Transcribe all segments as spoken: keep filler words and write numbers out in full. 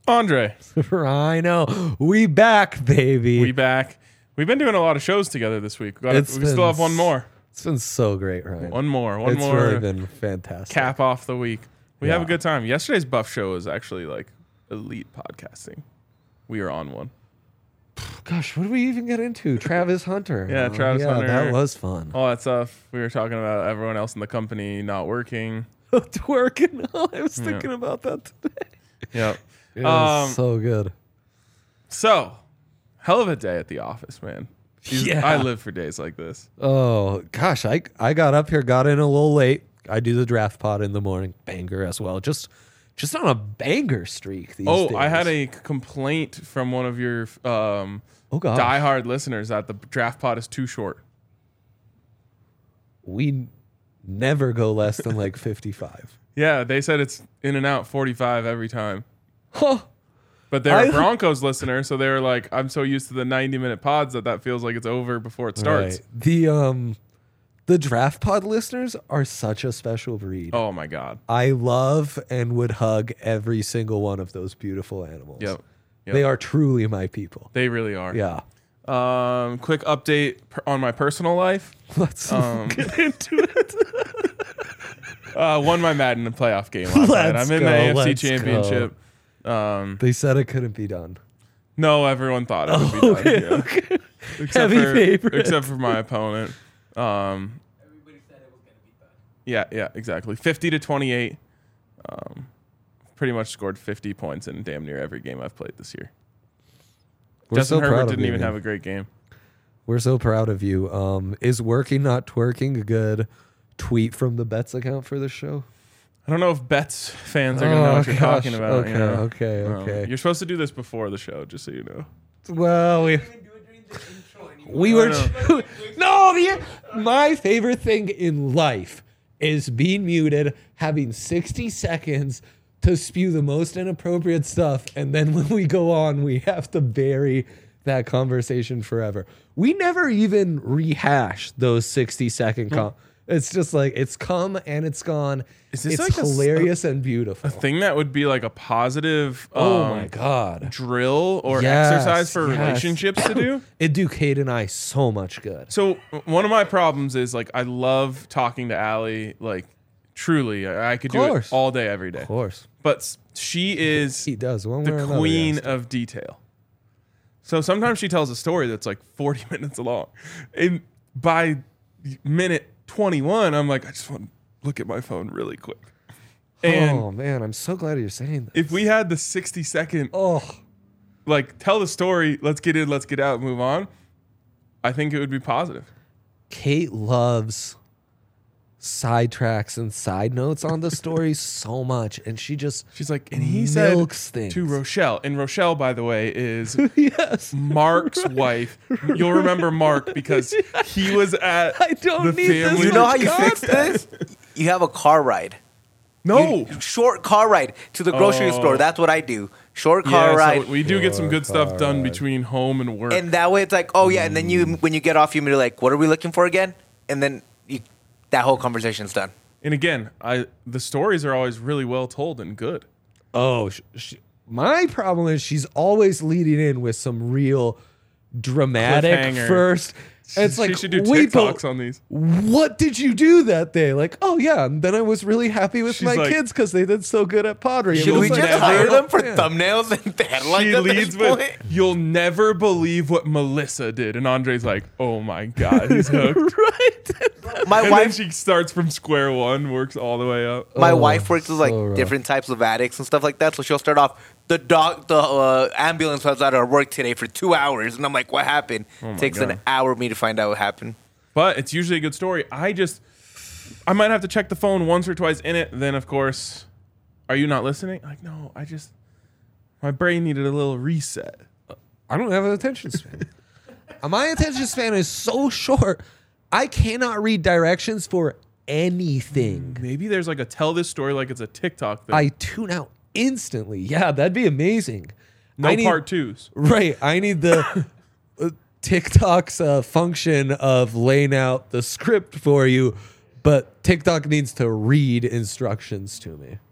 Andre. Rhino. We back, baby. We back. We've been doing a lot of shows together this week. We, got, we still have one more. It's been so great, Ryan. One more. One it's more. It's really been fantastic. Cap off the week. We yeah. have a good time. Yesterday's Buff show was actually like elite podcasting. We were on one. Gosh, what did we even get into? Travis Hunter. Yeah, Travis yeah, Hunter. That was fun. All that stuff. We were talking about everyone else in the company not working. Working. Oh, I was thinking yeah. about that today. Yep. It was um, so good. So, hell of a day at the office, man. These, yeah. I live for days like this. Oh, gosh. I, I got up here, got in a little late. I do the draft pod in the morning. Banger as well. Just just on a banger streak these oh, days. I had a complaint from one of your um, oh, gosh. diehard listeners that the draft pod is too short. We never go less than like fifty-five. Yeah, they said it's in and out forty-five every time. Huh. But they're I, a Broncos listener, so they were like, I'm so used to the ninety-minute pods that that feels like it's over before it starts. Right. The um, the draft pod listeners are such a special breed. Oh, my God. I love and would hug every single one of those beautiful animals. Yep. yep. They are truly my people. They really are. Yeah. Um, quick update per- on my personal life. Let's um, get into it. uh, won my Madden playoff game last night. I'm in go, the A F C let's Championship. Um, they said it couldn't be done. no, everyone thought it would be Oh, okay, done. Yeah. okay. Except Heavy for, favorite. Except for my opponent. Um, Everybody said it was going to be done. yeah, yeah, exactly. fifty to twenty-eight. Um, pretty much scored fifty points in damn near every game I've played this year. We're Justin so proud Herbert of didn't you, even man. have a great game. We're so proud of you. Um, is working not twerking a good tweet from the Bets account for this show? I don't know if Bets fans are going to know Oh, what you're gosh. talking about. Okay, you know? okay, Um, okay. you're supposed to do this before the show, just so you know. Well, we You didn't even do it during the intro anymore. we were I too, no. The, my favorite thing in life is being muted, having sixty seconds to spew the most inappropriate stuff, and then when we go on, we have to bury that conversation forever. We never even rehash those sixty second com- It's just like it's come and it's gone. Is this it's like a s- hilarious and beautiful. A thing that would be like a positive um, oh my god. drill or Yes, exercise for yes. relationships to do. It do Kate and I so much good. So one of my problems is like I love talking to Allie. Like truly, I, I could do it course. all day, every day. Of course. But s- she is He does one way or the another, queen yes. of detail. So sometimes she tells a story that's like forty minutes long. And by minute twenty-one, I'm like, I just want to look at my phone really quick. And oh man, I'm so glad you're saying that. if we had the sixty second, Oh, like tell the story, let's get in, let's get out, move on, I think it would be positive. Kate loves sidetracks and side notes on the story so much, and she just She's like, and he said milks things. to Rochelle, and Rochelle, by the way, is yes. Mark's wife. You'll remember Mark because he was at I don't the need this family. You know how you God. fix this? You have a car ride. No. You- short car ride to the grocery Oh. store. That's what I do. Short car Yeah, ride. so we do get some good Car stuff done ride. between home and work. And that way it's like, oh yeah, and then you when you get off, you're like, what are we looking for again? And then you, that whole conversation's done. And again, I the stories are always really well told and good. Oh, sh- sh- my problem is she's always leading in with some real dramatic Cliffhanger. first. It's she like should do wait, but TikToks on these. what did you do that day? Like, oh yeah, and then I was really happy with She's my like- kids because they did so good at pottery. Should And we it's just like, hire oh, them for yeah. thumbnails and headlines She at this leads with, point? "You'll never believe what Melissa did," and Andre's like, "Oh my god, he's hooked." Right. My And then wife, she starts from square one, works all the way up. my Oh, wife works with like so rough. different types of addicts and stuff like that. So she'll start off. The dog, the uh, ambulance was out of work today for two hours, and I'm like, "What happened?" Oh my Takes God. an hour for me to find out what happened. But it's usually a good story. I just, I might have to check the phone once or twice in it. Then, of course, are you not listening? Like, no, I just, my brain needed a little reset. I don't have an attention span. Uh, My attention span is so short. I cannot read directions for anything. Maybe there's like a tell this story like it's a TikTok thing. I tune out instantly. Yeah, that'd be amazing. no I need- part twos. Right. I need the uh, TikTok's uh, function of laying out the script for you, but TikTok needs to read instructions to me.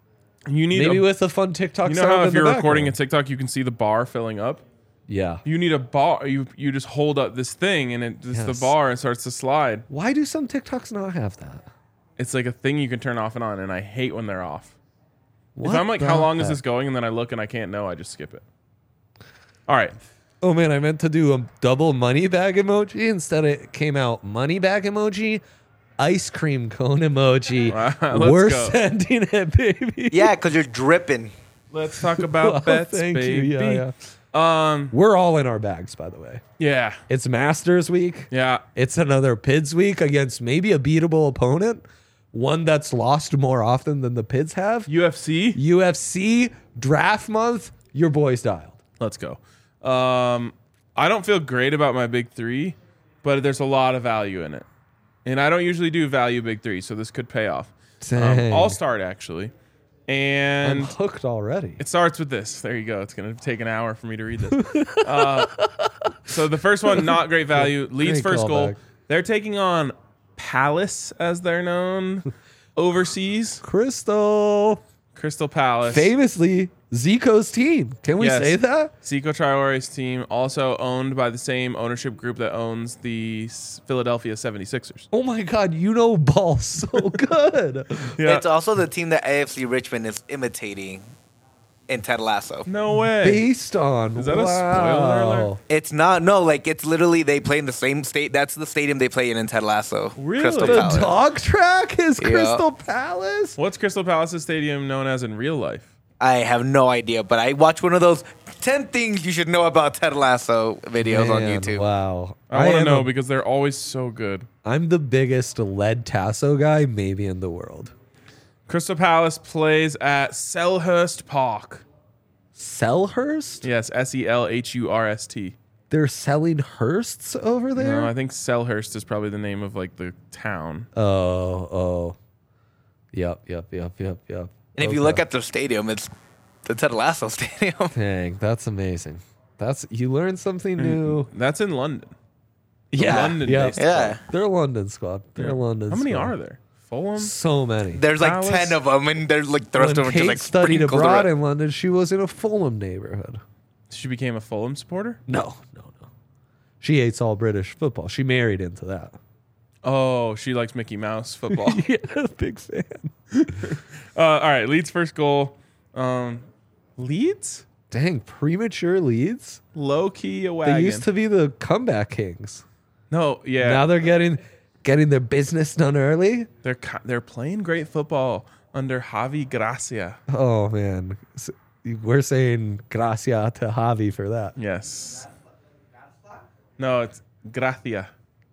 You need Maybe a, with a fun TikTok you know sound how in if the you're recording a background. TikTok, you can see the bar filling up. Yeah. You need a bar. You you just hold up this thing and it it's the Yes. bar and starts to slide. Why do some TikToks not have that? It's like a thing you can turn off and on, and I hate when they're off. What if I'm like, the how long is heck? this going? And then I look and I can't know, I just skip it. All right. Oh man, I meant to do a double money bag emoji. Instead, it came out money bag emoji, ice cream cone emoji. Let's We're go. sending it, baby. Yeah, because you're dripping. Let's talk about Well, bets, thank you. baby. Yeah, yeah. Um, We're all in our bags, by the way. yeah, It's Masters week. yeah. It's another P I D S week against maybe a beatable opponent, one that's lost more often than the P I Ds have. U F C. U F C draft month. Your boy's dialed. Let's go. Um, I don't feel great about my big three, but there's a lot of value in it, and I don't usually do value big three, so this could pay off. Um, Dang. I'll start actually, and I'm hooked already. it starts with this. There you go. It's gonna take an hour for me to read this. uh, so the first one, not great value. Leeds Great first goal. callback. They're taking on Palace, as they're known, overseas. Crystal, Crystal Palace. famously Zico's team. Can we Yes. say that? Zico Traore's team, also owned by the same ownership group that owns the S- Philadelphia seventy-sixers. Oh my God, you know ball so good. Yeah. It's also the team that A F C Richmond is imitating in Ted Lasso. No way. Based on Is that a wow. spoiler alert? It's not, no, like it's literally they play in the same state. That's the stadium they play in in Ted Lasso. Really? Crystal The The Palace. dog track is Yeah. Crystal Palace. What's Crystal Palace's stadium known as in real life? I have no idea, but I watched one of those ten things you should know about Ted Lasso videos on Man, YouTube. Wow. I, want to am know a- because they're always so good. I'm the biggest lead tasso guy maybe in the world. Crystal Palace plays at Selhurst Park. Selhurst? Yes, S E L H U R S T. They're selling Hursts over there? No, I think Selhurst is probably the name of like the town. oh, oh. Yep, yep, yep, yep, yep. And if you Okay. look at their stadium, it's the Ted Lasso stadium. Dang, that's amazing. That's you learn something new. That's in London. Yeah, London yeah. based Yeah. They're London squad. They're London. Oh, How many squad. are there? Fulham? So many. There's like Palace? ten of them, and there's like the rest When of them Kate just like studied sprinkled abroad around. in London, she was in a Fulham neighborhood. She became a Fulham supporter? No, no, no. She hates all British football. She married into that. Oh, she likes Mickey Mouse football. Yeah, big fan. uh, all right, Leeds first goal. Um, Leeds? Dang, premature leads. Low key a wagon. They used to be the comeback kings. no, yeah. Now they're getting getting their business done early. they're ki- they're playing great football under Javi Gracia. Oh man, S- we're saying gracia to Javi for that. Yes. No, it's Gracia.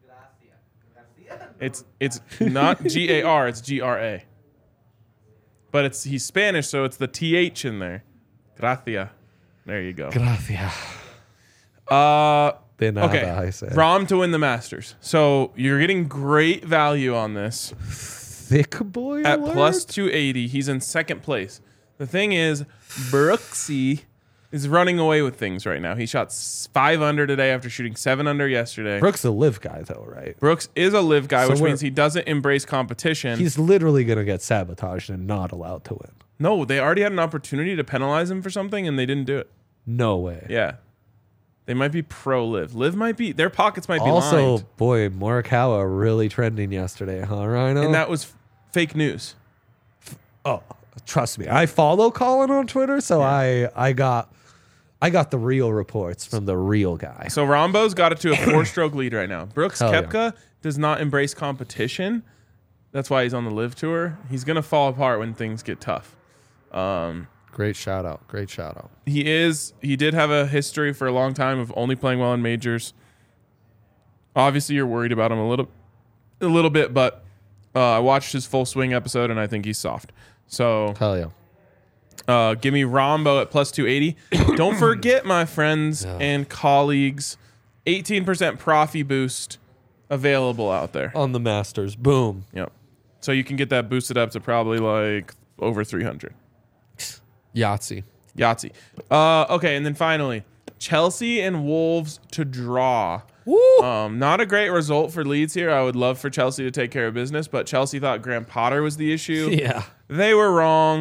It's it's not G A R, it's G R A. But it's he's Spanish, so it's the T H in there. Gracia. There you go. Gracia. Uh De nada, okay. I say. Rom to win the Masters. So you're getting great value on this. Thick boy At alert? plus two eighty, he's in second place. The thing is, Brooksy is running away with things right now. He shot s- five under today after shooting seven under yesterday. Brooks a live guy though, right? Brooks is a live guy, So which we're- means he doesn't embrace competition. He's literally gonna get sabotaged and not allowed to win. no, they already had an opportunity to penalize him for something, and they didn't do it. No way. Yeah. They might be pro live. Live might be, their pockets might be Also, lined. boy, Morikawa really trending yesterday, huh, Rhino? And that was f- fake news. oh, trust me, I follow Colin on Twitter, so I I got I got the real reports from the real guy. So Rombo's got it to a four-stroke lead right now. Brooks Hell yeah. Koepka does not embrace competition. That's why he's on the live tour. He's going to fall apart when things get tough. Um, Great shout out. Great shout out. he is. He did have a history for a long time of only playing well in majors. Obviously, you're worried about him a little, a little bit, but uh, I watched his full swing episode and I think he's soft. So Hell yeah. uh, give me Rombo at plus two eighty. Don't forget, my friends and colleagues, eighteen percent Profi boost available out there. On the Masters. Boom. Yep. So you can get that boosted up to probably like over three hundred. Yahtzee. Yahtzee. Uh, okay, and then finally, Chelsea and Wolves to draw. Woo! Um, not a great result for Leeds here. I would love for Chelsea to take care of business, but Chelsea thought Graham Potter was the issue. Yeah. They were wrong.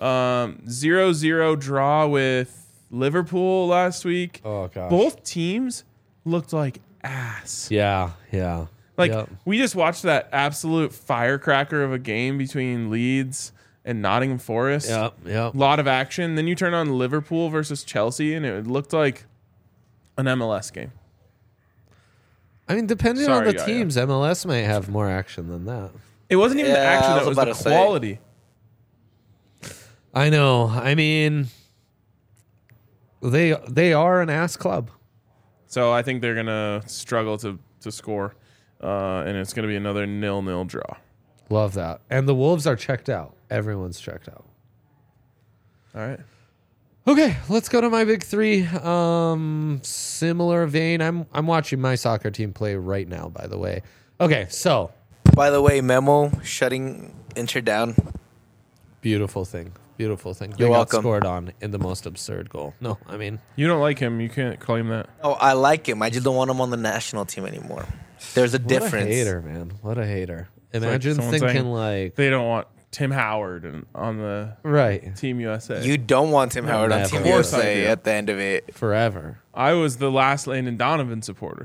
Um, zero zero draw with Liverpool last week. Oh gosh. Both teams looked like ass. Yeah, yeah. Like Yep. we just watched that absolute firecracker of a game between Leeds and Nottingham Forest. Yep, yep. A lot of action. Then you turn on Liverpool versus Chelsea, and it looked like an M L S game. I mean, depending Sorry, on the Yaya. teams, M L S might have more action than that. It wasn't even the Yeah, action; I that was was about the to say. quality. I know. I mean, they they are an ass club. So I think they're gonna struggle to to score, uh, and it's gonna be another nil-nil draw. Love that. And the Wolves are checked out. Everyone's checked out. All right. Okay, let's go to my big three. Um, similar vein. I'm I'm watching my soccer team play right now. By the way. Okay, so By the way, Memo shutting Inter down. beautiful thing. Beautiful thing. You're they welcome. got scored on in the most absurd goal. No, I mean, You don't like him. You can't claim that. Oh, I like him. I just don't want him on the national team anymore. There's a what difference. a hater, man. What a hater. like Imagine someone thinking saying- like, They don't want Tim Howard and on the right, Team U S A. You don't want Tim Howard on never. Team Of course I U S A do. at the end of it. forever. I was the last Landon Donovan supporter.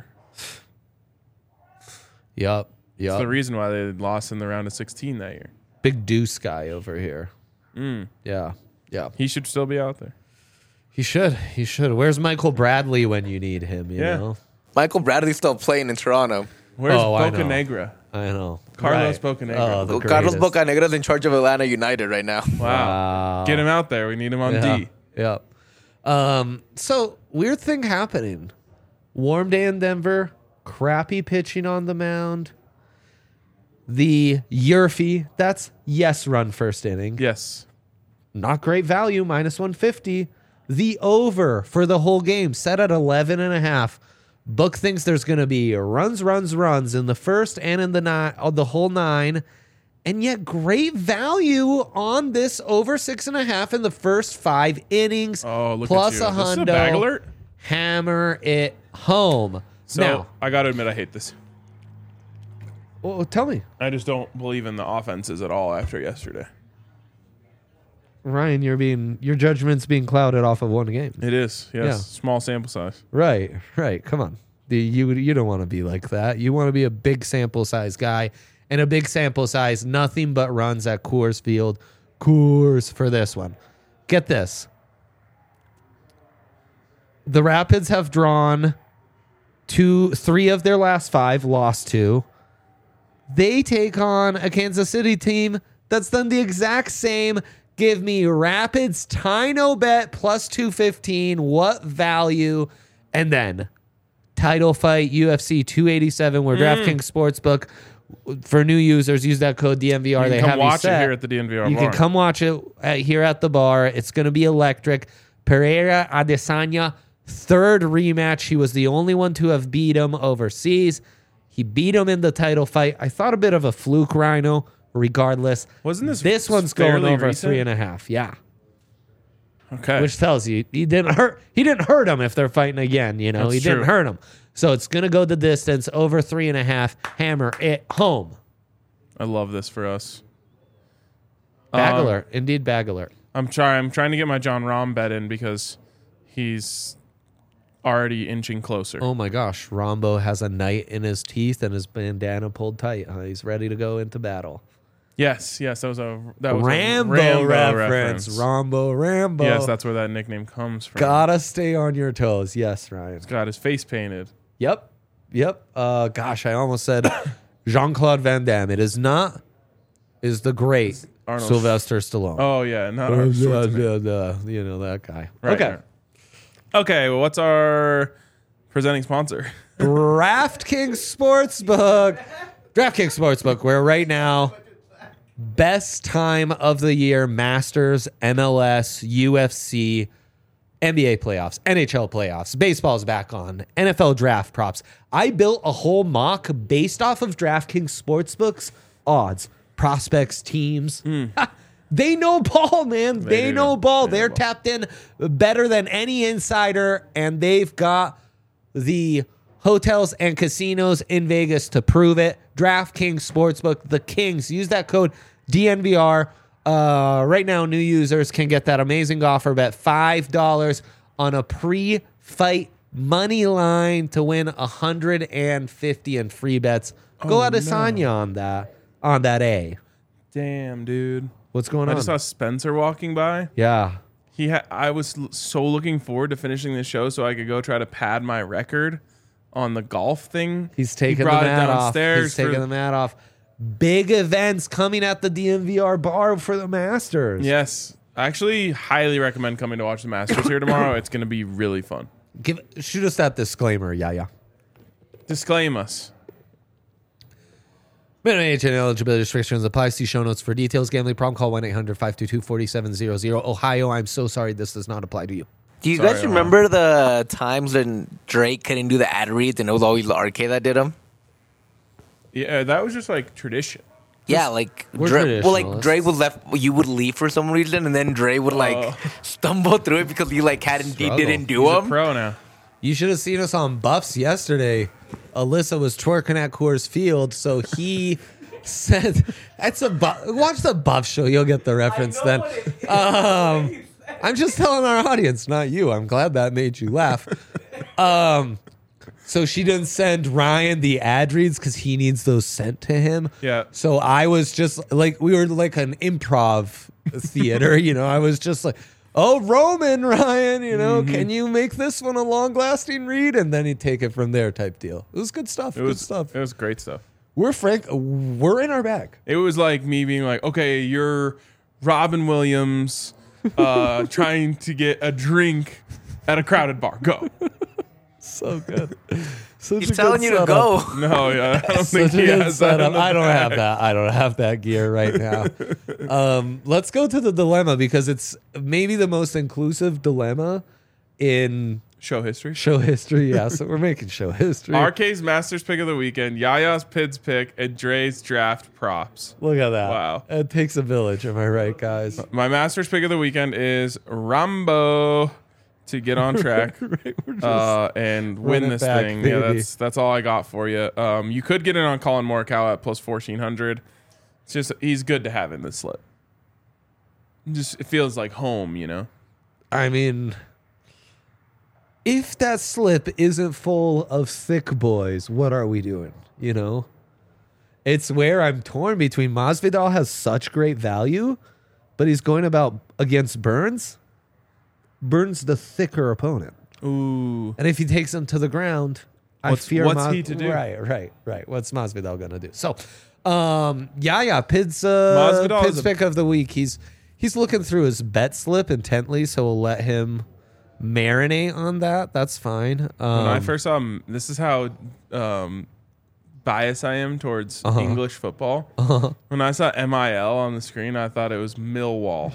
Yup. It's Yup. the reason why they lost in the round of sixteen that year. Big deuce guy over here. Mm. Yeah. Yeah. He should still be out there. He should. He should. Where's Michael Bradley when you need him, you Yeah. know? Michael Bradley's still playing in Toronto. Where's Oh, I know. Bocanegra? I know. Carlos Right. Bocanegra. Oh, the Carlos greatest. Bocanegra's in charge of Atlanta United right now. Wow. Wow. Get him out there. We need him on Yeah. D. Yep. Um, so weird thing happening. Warm day in Denver, crappy pitching on the mound. The Yurfie, that's yes run first inning. Yes. Not great value, minus one fifty. The over for the whole game, set at eleven and a half. Book thinks there's going to be runs, runs, runs in the first and in the nine, oh, the whole nine. And yet great value on this over six and a half in the first five innings. Oh, look plus at you. a This is a hundo. bag alert? Hammer it home. So now, I got to admit, I hate this. well, tell me, I just don't believe in the offenses at all after yesterday. Ryan, you're being your judgment's being clouded off of one game. It is. Yes. Yeah. Small sample size. Right, right. Come on. The, you you don't want to be like that. You want to be a big sample size guy, and a big sample size, nothing but runs at Coors Field. Coors for this one. Get this. The Rapids have drawn two, three of their last five, lost two. They take on a Kansas City team that's done the exact same. Give me Rapids Tino bet plus two fifteen. What value? And then title fight U F C two eighty-seven where DraftKings Sportsbook for new users use that code D N V R. You they can come have you watch it set. here at the D N V R You bar. can come watch it at, here at the bar. It's going to be electric. Pereira Adesanya, third rematch. He was the only one to have beat him overseas. He beat him in the title fight. I thought a bit of a fluke, Rhino. Regardless, Wasn't this this one's going fairly over recent? three and a half? Yeah, Okay. which tells you he didn't hurt. He didn't hurt him if they're fighting again. You know, That's he didn't true. hurt him. So it's going to go the distance over three and a half. Hammer it home. I love this for us. Bag Um, alert. Indeed, bag alert. I'm trying. I'm trying to get my John Rahm bet in because he's already inching closer. Oh my gosh, Rombo has a knight in his teeth and his bandana pulled tight. Huh? He's ready to go into battle. Yes, yes, that was a that was Rambo, a Rambo reference. reference. Rombo, Rambo. Yes, that's where that nickname comes from. Gotta stay on your toes. Yes, Ryan. Got his face painted. Yep. Yep. Uh, gosh, I almost said Jean-Claude Van Damme. It is not. Is the great Arnold Sylvester Stallone. Oh yeah, not Uh, our uh, Schwarzenegger. uh, uh, you know that guy. Right, okay. right. Okay, well, what's our presenting sponsor? DraftKings Sportsbook. DraftKings Sportsbook, where right now, best time of the year, Masters, M L S, U F C, N B A playoffs, N H L playoffs, baseball's back on, N F L draft props. I built a whole mock based off of DraftKings Sportsbook's odds, prospects, teams. They know ball, man. They, do. know ball. They know They're ball. tapped in better than any insider, and they've got the hotels and casinos in Vegas to prove it. DraftKings Sportsbook, the Kings. Use that code D N V R. Uh, right now, new users can get that amazing offer. Bet five dollars on a pre-fight money line to win one hundred fifty in free bets. Go Oh, out of no. Sanya on that. On that A. Damn, dude. What's going I on? just saw Spencer walking by. yeah. He ha- I was l- so looking forward to finishing this show so I could go try to pad my record on the golf thing. He's He taking the brought it mat off. downstairs He's taking for- the mat off. Big events coming at the D M V R bar for the Masters. Yes. I actually highly recommend coming to watch the Masters here tomorrow. It's going to be really fun. Give shoot us that disclaimer, yeah, yeah. Disclaim us. Minimum age and eligibility restrictions apply. See show notes for details. Gambling problem, call one eight hundred five two two four seven zero zero. Ohio, I'm so sorry this does not apply to you. Do you Sorry, guys Ohio. remember the times when Drake couldn't do the ad reads and it was always the R K that did them? Yeah, that was just like tradition. Yeah, like We're Dre, well, like traditionalists. Dre would left. You would leave for some reason, and then Dre would like Oh. stumble through it because he like hadn't he Struggle. didn't do He's a them. pro now. You should have seen us on Buffs yesterday. Alyssa was twerking at Coors Field, so he said, "That's a bu- watch the Buff show. You'll get the reference then." Um, I'm just telling our audience, not you. I'm glad that made you laugh. Um, so she didn't send Ryan the ad reads because he needs those sent to him. Yeah. So I was just like, we were like an improv theater, you know. I was just like, oh, Roman, Ryan, you know, Mm-hmm. can you make this one a long lasting read? And then he'd take it from there type deal. It was good stuff. It good was stuff. It was great stuff. We're frank. We're in our bag. It was like me being like, okay, you're Robin Williams uh, trying to get a drink at a crowded bar. Go. So good. Such He's a telling good you to setup. go. No, yeah, I don't think Such a he good has that. setup. in the I don't have bag. that. I don't have that gear right now. um, let's go to the dilemma because it's maybe the most inclusive dilemma in Show history. show history. Yeah, so we're making show history. R K's Masters pick of the weekend, Yaya's Pids pick, and Dre's draft props. Look at that. Wow. It takes a village. Am I right, guys? My Masters pick of the weekend is Rambo to get on track Right, we're just- uh, and win it this back, thing. Yeah, baby. that's that's all I got for you. Um, you could get in on Colin Morikawa at plus fourteen hundred. It's just he's good to have in this slip. Just it feels like home, you know. I mean, if that slip isn't full of thick boys, what are we doing? You know? It's where I'm torn between Masvidal has such great value, but he's going about against Burns. Burns the thicker opponent. Ooh. And if he takes him to the ground, I What's- fear what's Mas- he to do? Right, right, right. What's Masvidal gonna do? So, um, yeah, yeah. Pids, uh, Masvidal Pids is a- pick of the week. He's he's looking through his bet slip intently, so we'll let him marinate on that. That's fine. Um, When I first saw him, this is how um, biased I am towards Uh-huh. English football. Uh-huh. When I saw M I L on the screen, I thought it was Millwall.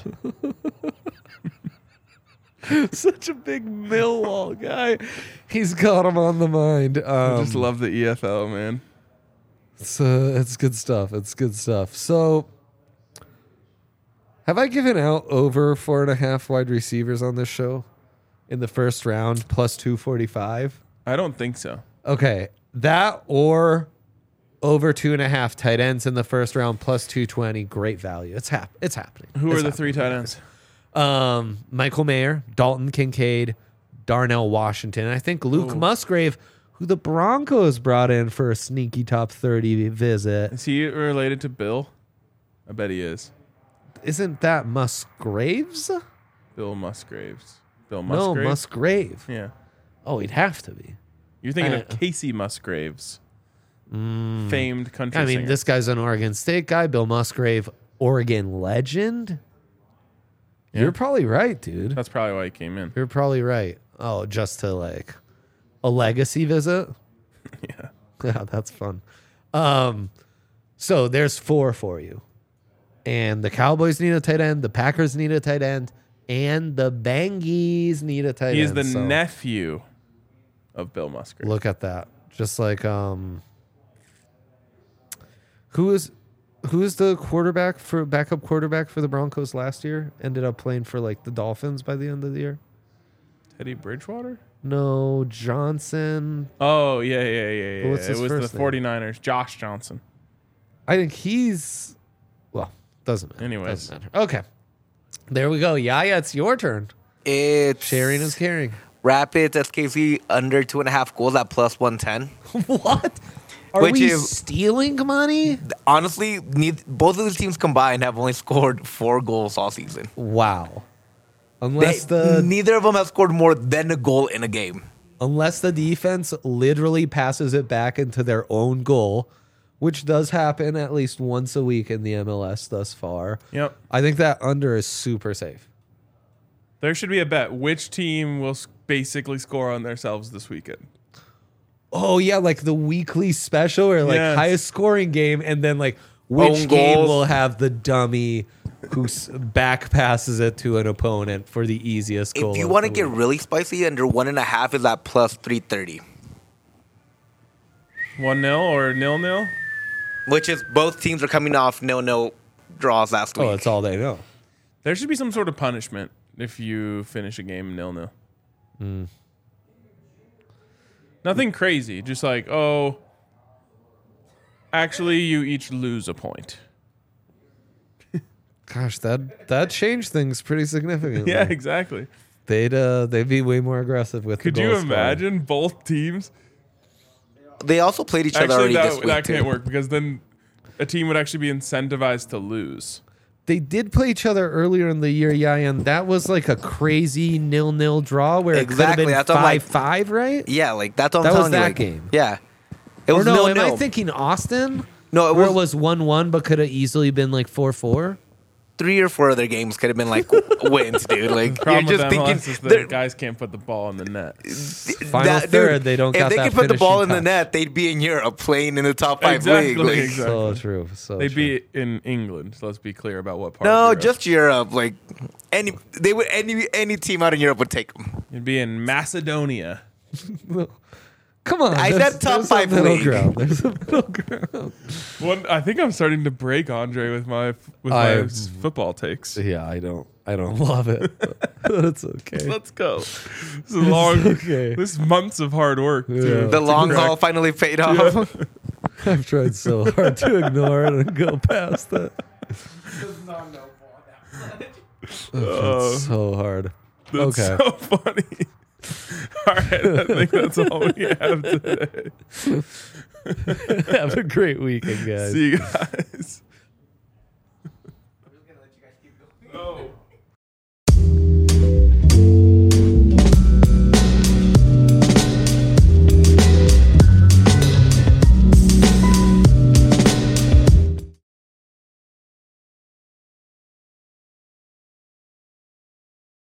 such a big Millwall guy, he's got him on the mind. Um, I just love the E F L, man. It's, uh, it's good stuff. It's good stuff. So, have I given out over four and a half wide receivers on this show in the first round plus two forty-five? I don't think so. Okay. That or over two and a half tight ends in the first round plus two twenty. Great value. It's, hap- it's happening. Who It's are the happening. three tight ends? Um, Michael Mayer, Dalton Kincaid, Darnell Washington. I think Luke Ooh. Musgrave, who the Broncos brought in for a sneaky top thirty visit. Is he related to Bill? I bet he is. Isn't that Musgraves? Bill Musgraves. Bill No, Musgrave? Musgrave. Yeah. Oh, he'd have to be. You're thinking Uh, of Casey Musgraves. Famed country I mean, singer. this guy's an Oregon State guy. Bill Musgrave, Oregon legend. Yeah. You're probably right, dude. That's probably why he came in. You're probably right. Oh, just to like a legacy visit. Yeah. Yeah, that's fun. Um, so there's four for you. And the Cowboys need a tight end, the Packers need a tight end, and the Bangies need a tight He is end. the So nephew of Bill Musgrave. look at that. Just like um who is who is the quarterback for backup quarterback for the Broncos last year? Ended up playing for like the Dolphins by the end of the year. Teddy Bridgewater? No, Johnson. Oh, yeah, yeah, yeah, yeah. What's It his was the first name? 49ers. Josh Johnson. I think he's well, Doesn't matter. Anyways. Doesn't matter. Okay. There we go. Yaya, it's your turn. It's Sharing is caring. Rapids S K C under two and a half goals at plus one ten. What? Are Which we is- stealing money? Honestly, neith- both of the teams combined have only scored four goals all season. Wow. They, Unless the neither of them have scored more than a goal in a game. unless the defense literally passes it back into their own goal, which does happen at least once a week in the M L S thus far. Yep. I think that under is super safe. There should be a bet. Which team will s- basically score on themselves this weekend? Oh yeah, like the weekly special or like Yes. highest scoring game, and then like which Own game goals. will have the dummy who s- back passes it to an opponent for the easiest goal. If you of want to the get week. really spicy, under one and a half is at plus three thirty, one nil or nil nil? which is both teams are coming off no no draws last week. Oh, that's all they know. There should be some sort of punishment if you finish a game nil nil. Hmm. Nothing crazy. Just like, oh, actually, you each lose a point. Gosh, that that changed things pretty significantly. Yeah, exactly. They'd uh, they'd be way more aggressive with. Could the you goal scoring. imagine both teams? They also played each other Actually, already this that, week that too. can't work because then a team would actually be incentivized to lose. They did play each other earlier in the year, yeah, and that was like a crazy nil-nil draw where Exactly, it could have been that's what I'm like- five-five, right? Yeah, like that's what That I'm was telling you. that like, game. Yeah, it Or was no, no am no. I thinking Austin? No, it where was, it was one-one, but could have easily been like four-four. three or four other games could have been like wins, dude. Like you're Problem with just M L thinking S is the they're- guys can't put the ball in the net. Final third, they don't If got they that could put the ball in finishing the touch. net, they'd be in Europe playing in the top five Exactly, league. Like, exactly. So true. So They'd true. be in England. So let's be clear about what part. no, of Europe. just Europe. Like any, they would any any team out in Europe would take them. It'd be in Macedonia. Come on. I there's- said top there's five a middle league. ground. There's a middle ground. One, I think I'm starting to break Andre with my with I- my s- football takes. Yeah, I don't. I don't love it. But that's okay. Let's go. This is long. okay. This is months of hard work. Yeah. Too. The long correct. haul finally paid off. I've tried so hard to ignore it and go past it. Does not know ball that much. I've Oh. tried so hard. That's Okay. so funny. All right, I think that's all we have today. Have a great weekend, guys. See you guys.